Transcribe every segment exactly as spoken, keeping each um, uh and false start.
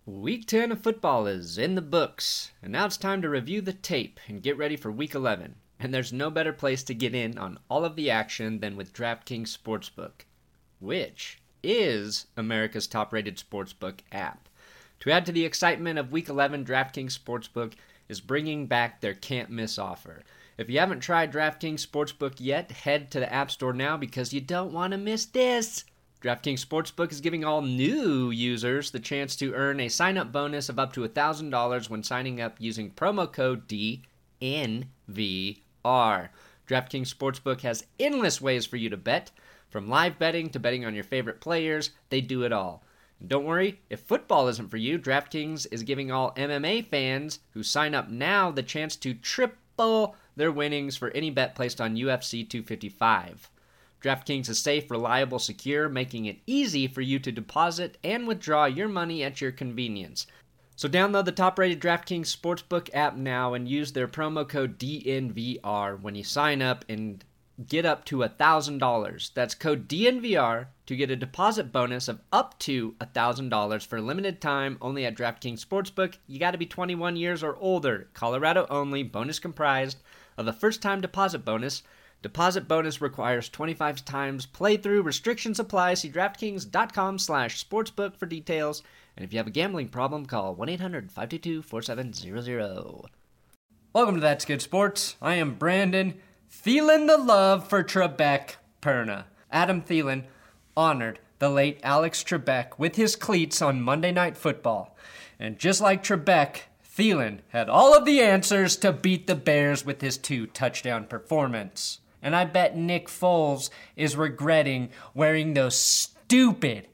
Week ten of football is in the books, and now it's time to review the tape and get ready for Week eleven. And there's no better place to get in on all of the action than with DraftKings Sportsbook, which is America's top-rated sportsbook app. To add to the excitement of Week eleven, DraftKings Sportsbook is bringing back their can't-miss offer. If you haven't tried DraftKings Sportsbook yet, head to the App Store now because you don't want to miss this. DraftKings Sportsbook is giving all new users the chance to earn a sign-up bonus of up to one thousand dollars when signing up using promo code D N V R. DraftKings Sportsbook has endless ways for you to bet. From live betting to betting on your favorite players, they do it all. And don't worry, if football isn't for you, DraftKings is giving all M M A fans who sign up now the chance to triple their winnings for any bet placed on U F C two fifty-five. DraftKings is safe, reliable, secure, making it easy for you to deposit and withdraw your money at your convenience. So download the top-rated DraftKings Sportsbook app now and use their promo code D N V R when you sign up and get up to one thousand dollars. That's code D N V R to get a deposit bonus of up to one thousand dollars for a limited time only at DraftKings Sportsbook. You got to be twenty-one years or older. Colorado only. Bonus comprised of a first-time deposit bonus. Deposit bonus requires twenty-five times playthrough. Restrictions apply. See DraftKings.com slash sportsbook for details. And if you have a gambling problem, call one eight hundred five two two four seven zero zero. Welcome to That's Good Sports. I am Brandon. Thielen the love for Trebek Perna. Adam Thielen honored the late Alex Trebek with his cleats on Monday Night Football. And just like Trebek, Thielen had all of the answers to beat the Bears with his two-touchdown performance. And I bet Nick Foles is regretting wearing those stupid,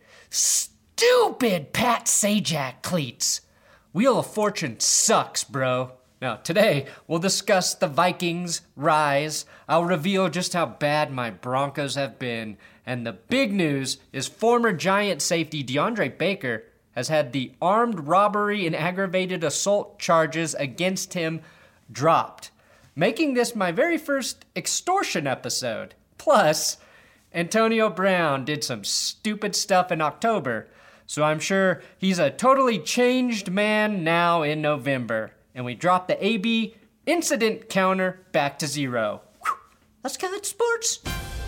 stupid Pat Sajak cleats. Wheel of Fortune sucks, bro. Now, today, we'll discuss the Vikings' rise. I'll reveal just how bad my Broncos have been. And the big news is former Giant safety DeAndre Baker has had the armed robbery and aggravated assault charges against him dropped, making this my very first extortion episode. Plus, Antonio Brown did some stupid stuff in October, so I'm sure he's a totally changed man now in November. And we dropped the A B incident counter back to zero. Whew. Let's get it, sports.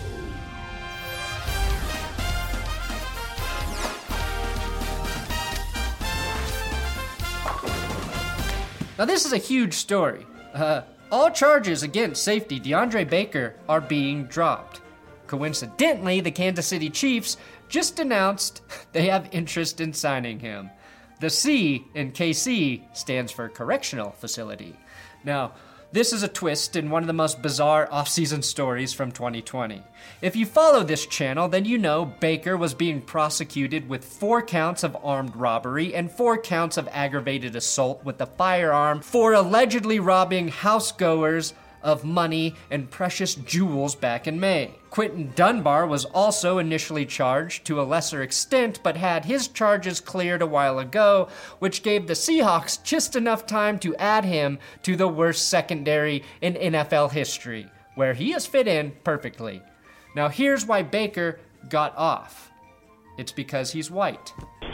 Now this is a huge story. Uh, all charges against safety DeAndre Baker are being dropped. Coincidentally, the Kansas City Chiefs just announced they have interest in signing him. The C in K C stands for Correctional Facility. Now, this is a twist in one of the most bizarre off-season stories from twenty twenty. If you follow this channel, then you know Baker was being prosecuted with four counts of armed robbery and four counts of aggravated assault with a firearm for allegedly robbing housegoers of money and precious jewels back in May. Quentin Dunbar was also initially charged to a lesser extent, but had his charges cleared a while ago, which gave the Seahawks just enough time to add him to the worst secondary in N F L history, where he has fit in perfectly. Now here's why Baker got off. It's because he's white.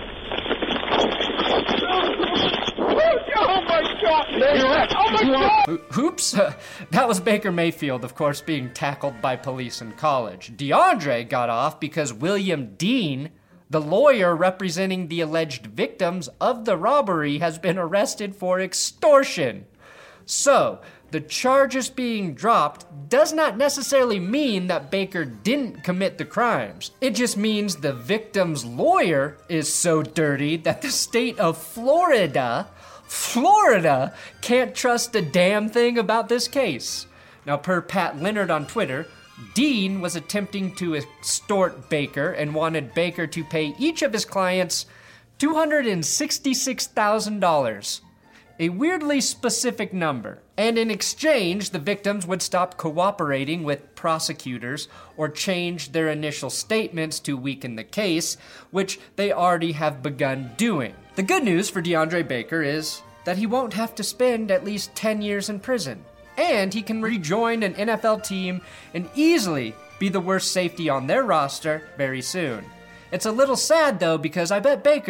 Oh my God! Oh my God! Oops! Uh, that was Baker Mayfield, of course, being tackled by police in college. DeAndre got off because William Dean, the lawyer representing the alleged victims of the robbery, has been arrested for extortion. So, the charges being dropped does not necessarily mean that Baker didn't commit the crimes. It just means the victim's lawyer is so dirty that the state of Florida Florida can't trust a damn thing about this case. Now, per Pat Leonard on Twitter, Dean was attempting to extort Baker and wanted Baker to pay each of his clients two hundred sixty-six thousand dollars, a weirdly specific number. And in exchange, the victims would stop cooperating with prosecutors or change their initial statements to weaken the case, which they already have begun doing. The good news for DeAndre Baker is that he won't have to spend at least ten years in prison, and he can rejoin an N F L team and easily be the worst safety on their roster very soon. It's a little sad, though, because I bet Baker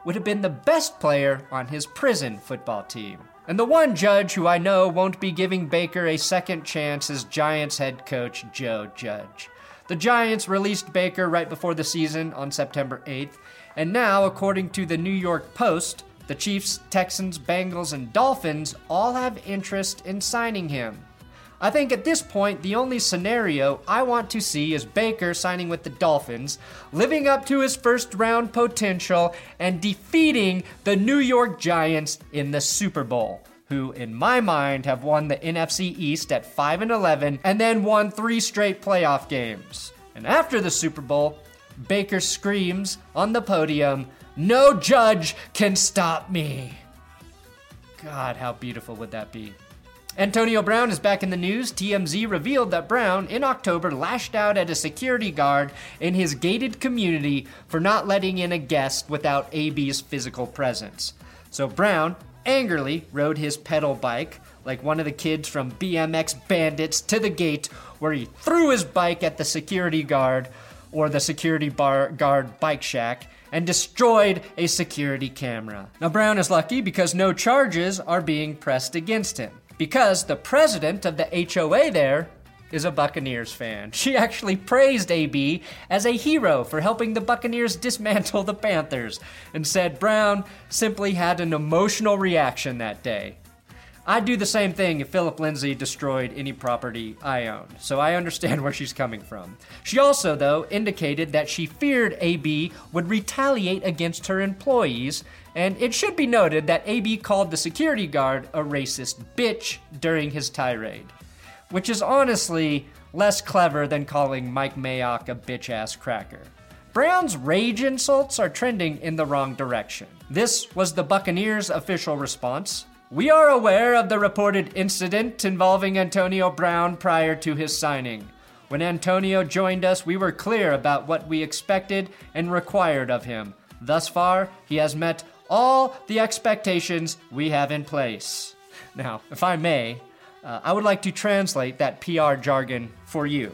would have been the best player on his prison football team. And the one judge who I know won't be giving Baker a second chance is Giants head coach Joe Judge. The Giants released Baker right before the season on September eighth, and now, according to the New York Post, the Chiefs, Texans, Bengals, and Dolphins all have interest in signing him. I think at this point, the only scenario I want to see is Baker signing with the Dolphins, living up to his first round potential, and defeating the New York Giants in the Super Bowl, who, in my mind, have won the N F C East at five and eleven and then won three straight playoff games. And after the Super Bowl, Baker screams on the podium, "No judge can stop me." God, how beautiful would that be? Antonio Brown is back in the news. T M Z revealed that Brown, in October, lashed out at a security guard in his gated community for not letting in a guest without A B's physical presence. So Brown angrily rode his pedal bike, like one of the kids from B M X Bandits, to the gate, where he threw his bike at the security guard, or the security bar guard bike shack, and destroyed a security camera. Now Brown is lucky because no charges are being pressed against him, because the president of the H O A there is a Buccaneers fan. She actually praised A B as a hero for helping the Buccaneers dismantle the Panthers, and said Brown simply had an emotional reaction that day. I'd do the same thing if Philip Lindsay destroyed any property I owned, so I understand where she's coming from. She also, though, indicated that she feared A B would retaliate against her employees, and it should be noted that A B called the security guard a racist bitch during his tirade, which is honestly less clever than calling Mike Mayock a bitch-ass cracker. Brown's rage insults are trending in the wrong direction. This was the Buccaneers' official response. "We are aware of the reported incident involving Antonio Brown prior to his signing. When Antonio joined us, we were clear about what we expected and required of him. Thus far, he has met all the expectations we have in place." Now, if I may, uh, I would like to translate that P R jargon for you.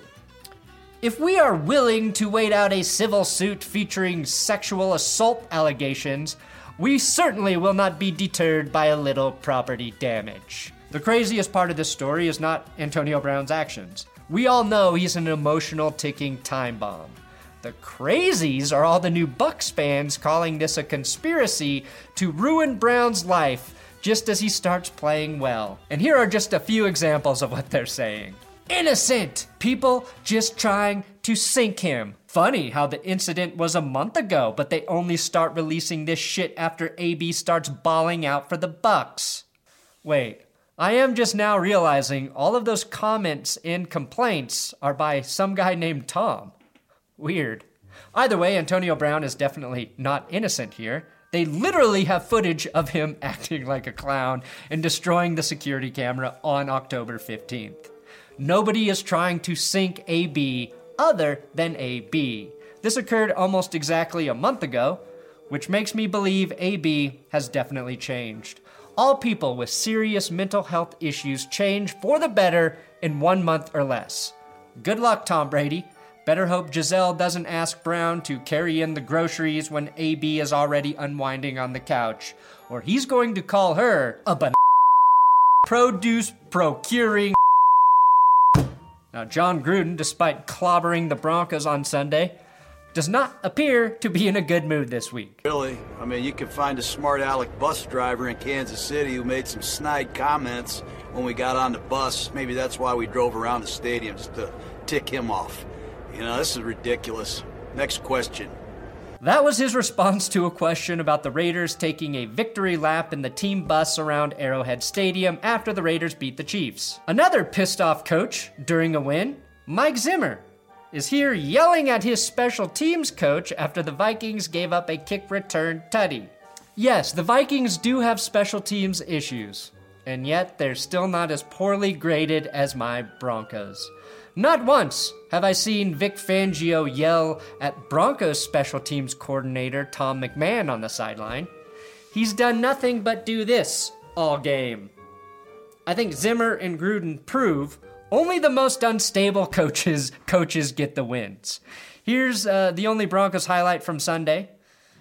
If we are willing to wait out a civil suit featuring sexual assault allegations, we certainly will not be deterred by a little property damage. The craziest part of this story is not Antonio Brown's actions. We all know he's an emotional ticking time bomb. The crazies are all the new Bucs fans calling this a conspiracy to ruin Brown's life just as he starts playing well. And here are just a few examples of what they're saying. Innocent! People just trying to sink him. Funny how the incident was a month ago, but they only start releasing this shit after A B starts bawling out for the Bucs. Wait, I am just now realizing all of those comments and complaints are by some guy named Tom. Weird. Either way, Antonio Brown is definitely not innocent here. They literally have footage of him acting like a clown and destroying the security camera on October fifteenth. Nobody is trying to sink A B other than A B. This occurred almost exactly a month ago, which makes me believe A B has definitely changed. All people with serious mental health issues change for the better in one month or less. Good luck, Tom Brady. Better hope Giselle doesn't ask Brown to carry in the groceries when A B is already unwinding on the couch, or he's going to call her a ban- produce procuring. Now, John Gruden, despite clobbering the Broncos on Sunday, does not appear to be in a good mood this week. Really? I mean, you can find a smart aleck bus driver in Kansas City who made some snide comments when we got on the bus. Maybe that's why we drove around the stadium, just to tick him off. You know, this is ridiculous. Next question. That was his response to a question about the Raiders taking a victory lap in the team bus around Arrowhead Stadium after the Raiders beat the Chiefs. Another pissed off coach during a win, Mike Zimmer, is here yelling at his special teams coach after the Vikings gave up a kick return tutty. Yes, the Vikings do have special teams issues, and yet they're still not as poorly graded as my Broncos. Not once have I seen Vic Fangio yell at Broncos special teams coordinator Tom McMahon on the sideline. He's done nothing but do this all game. I think Zimmer and Gruden prove only the most unstable coaches coaches get the wins. Here's uh, the only Broncos highlight from Sunday.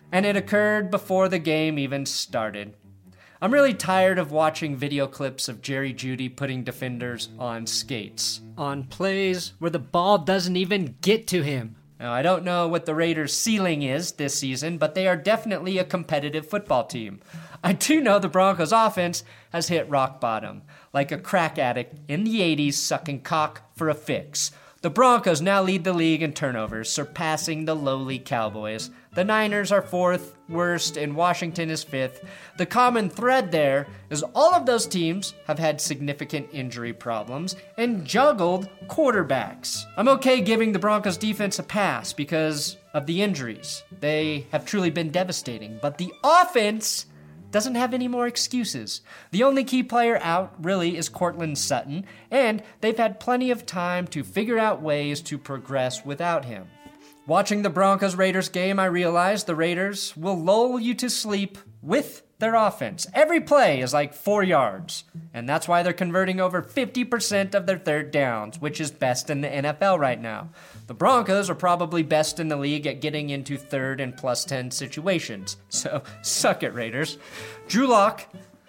and it occurred before the game even started. I'm really tired of watching video clips of Jerry Jeudy putting defenders on skates, on plays where the ball doesn't even get to him. Now, I don't know what the Raiders' ceiling is this season, but they are definitely a competitive football team. I do know the Broncos' offense has hit rock bottom, like a crack addict in the eighties sucking cock for a fix. The Broncos now lead the league in turnovers, surpassing the lowly Cowboys. The Niners are fourth worst and Washington is fifth. The common thread there is all of those teams have had significant injury problems and juggled quarterbacks. I'm okay giving the Broncos defense a pass because of the injuries. They have truly been devastating, but the offense doesn't have any more excuses. The only key player out, really, is Courtland Sutton, and they've had plenty of time to figure out ways to progress without him. Watching the Broncos-Raiders game, I realized the Raiders will lull you to sleep with their offense. Every play is like four yards, and that's why they're converting over fifty percent of their third downs, which is best in the N F L right now. The Broncos are probably best in the league at getting into third and plus ten situations, so suck it, Raiders. Drew Lock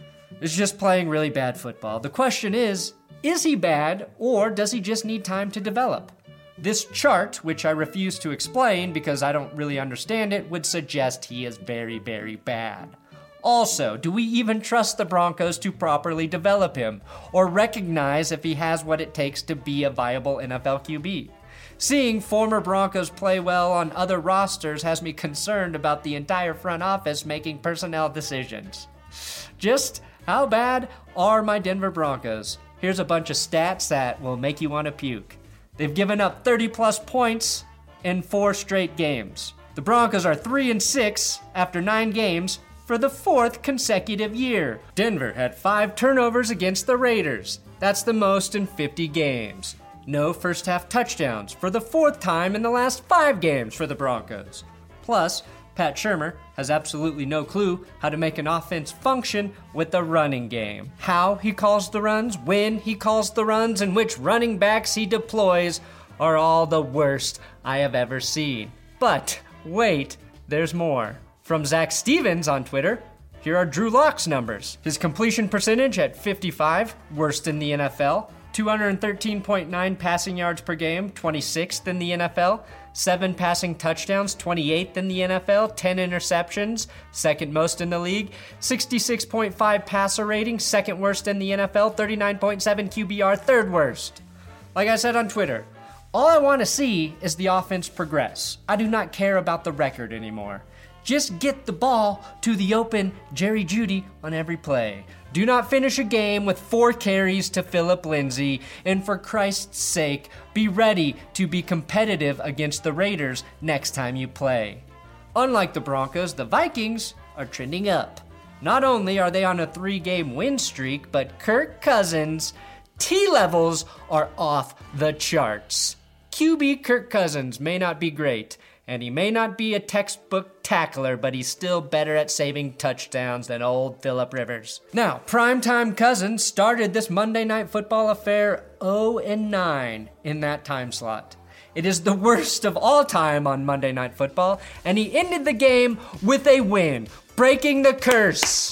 is just playing really bad football. The question is, is he bad, or does he just need time to develop? This chart, which I refuse to explain because I don't really understand it, would suggest he is very, very bad. Also, do we even trust the Broncos to properly develop him, or recognize if he has what it takes to be a viable N F L Q B? Seeing former Broncos play well on other rosters has me concerned about the entire front office making personnel decisions. Just how bad are my Denver Broncos? Here's a bunch of stats that will make you want to puke. They've given up thirty plus points in four straight games. The Broncos are three and six after nine games for the fourth consecutive year. Denver had five turnovers against the Raiders. That's the most in fifty games. No first half touchdowns for the fourth time in the last five games for the Broncos. Plus, Pat Shurmur has absolutely no clue how to make an offense function with the running game. How he calls the runs, when he calls the runs, and which running backs he deploys are all the worst I have ever seen. But wait, there's more. From Zach Stevens on Twitter, here are Drew Lock's numbers. His completion percentage at fifty-five, worst in the N F L. two hundred thirteen point nine passing yards per game, twenty-sixth in the N F L. seven passing touchdowns, twenty-eighth in the N F L. ten interceptions, second most in the league. sixty-six point five passer rating, second worst in the N F L. thirty-nine point seven Q B R, third worst. Like I said on Twitter, all I want to see is the offense progress. I do not care about the record anymore. Just get the ball to the open Jerry Jeudy on every play. Do not finish a game with four carries to Phillip Lindsay, and for Christ's sake, be ready to be competitive against the Raiders next time you play. Unlike the Broncos, the Vikings are trending up. Not only are they on a three-game win streak, but Kirk Cousins' T-levels are off the charts. Q B Kirk Cousins may not be great, and he may not be a textbook tackler, but he's still better at saving touchdowns than old Phillip Rivers. Now, primetime Cousins started this Monday Night Football affair oh and nine in that time slot. It is the worst of all time on Monday Night Football, and he ended the game with a win, breaking the curse,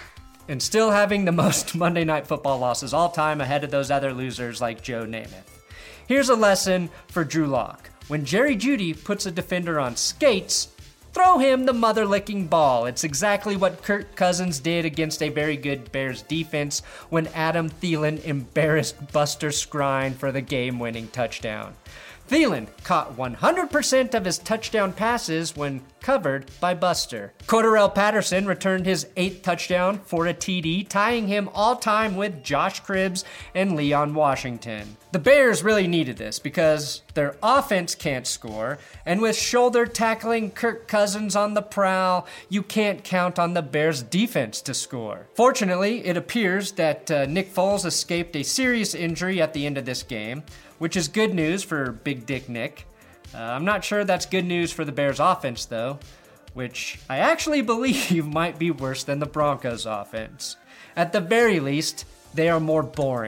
and still having the most Monday Night Football losses all time ahead of those other losers like Joe Namath. Here's a lesson for Drew Lock. When Jerry Jeudy puts a defender on skates, throw him the mother-licking ball. It's exactly what Kirk Cousins did against a very good Bears defense when Adam Thielen embarrassed Buster Skrine for the game-winning touchdown. Thielen caught one hundred percent of his touchdown passes when covered by Buster. Cordarrelle Patterson returned his eighth touchdown for a T D, tying him all-time with Josh Cribbs and Leon Washington. The Bears really needed this because their offense can't score, and with shoulder tackling Kirk Cousins on the prowl, you can't count on the Bears' defense to score. Fortunately, it appears that uh, Nick Foles escaped a serious injury at the end of this game, which is good news for Big Dick Nick. Uh, I'm not sure that's good news for the Bears' offense, though, which I actually believe might be worse than the Broncos' offense. At the very least, they are more boring.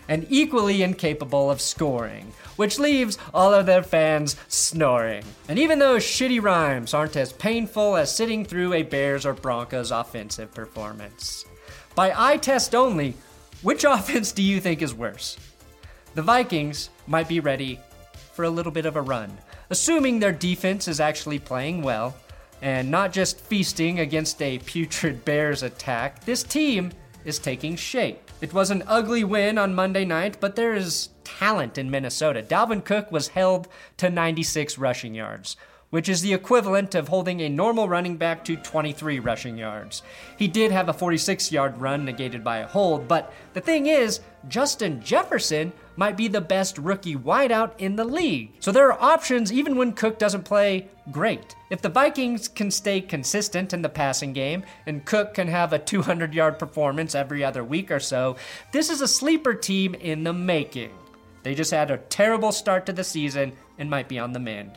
and equally incapable of scoring, which leaves all of their fans snoring. And even those shitty rhymes aren't as painful as sitting through a Bears or Broncos offensive performance. By eye test only, which offense do you think is worse? The Vikings might be ready for a little bit of a run, assuming their defense is actually playing well and not just feasting against a putrid Bears attack. This team is taking shape. It was an ugly win on Monday night, but there is talent in Minnesota. Dalvin Cook was held to ninety-six rushing yards, which is the equivalent of holding a normal running back to twenty-three rushing yards. He did have a forty-six-yard run negated by a hold, but the thing is, Justin Jefferson might be the best rookie wideout in the league. So there are options even when Cook doesn't play great. If the Vikings can stay consistent in the passing game and Cook can have a two hundred-yard performance every other week or so, this is a sleeper team in the making. They just had a terrible start to the season and might be on the mend.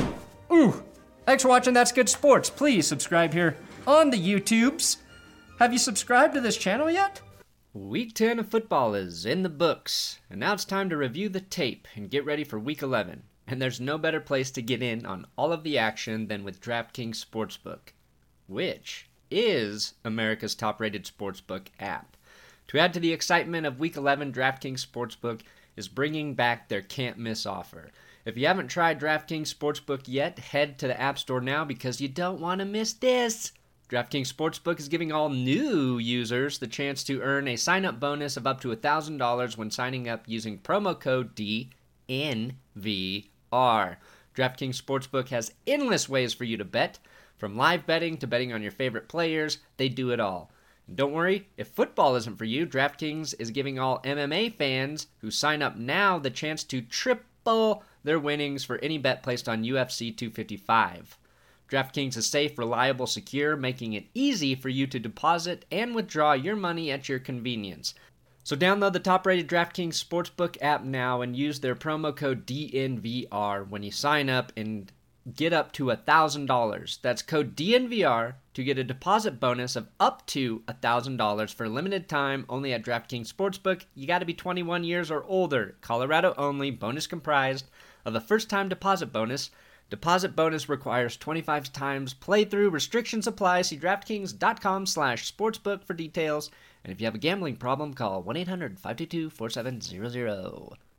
Ooh, thanks for watching That's Good Sports. Please subscribe here on the YouTubes. Have you subscribed to this channel yet? Week ten of football is in the books, and now it's time to review the tape and get ready for Week eleven. And there's no better place to get in on all of the action than with DraftKings Sportsbook, which is America's top-rated sportsbook app. To add to the excitement of Week eleven, DraftKings Sportsbook is bringing back their can't-miss offer. If you haven't tried DraftKings Sportsbook yet, head to the App Store now because you don't want to miss this. DraftKings Sportsbook is giving all new users the chance to earn a sign-up bonus of up to one thousand dollars when signing up using promo code D N V R. DraftKings Sportsbook has endless ways for you to bet. From live betting to betting on your favorite players, they do it all. And don't worry, if football isn't for you, DraftKings is giving all M M A fans who sign up now the chance to triple their winnings for any bet placed on U F C two fifty-five. DraftKings is safe, reliable, secure, making it easy for you to deposit and withdraw your money at your convenience. So download the top-rated DraftKings Sportsbook app now and use their promo code D N V R when you sign up and get up to one thousand dollars. That's code D N V R to get a deposit bonus of up to one thousand dollars for a limited time only at DraftKings Sportsbook. You got to be twenty-one years or older. Colorado only. Bonus comprised of a first-time deposit bonus. Deposit bonus requires twenty-five times playthrough. Restrictions apply. See DraftKings.com slash sportsbook for details. And if you have a gambling problem, call one eight hundred five two two four seven zero zero.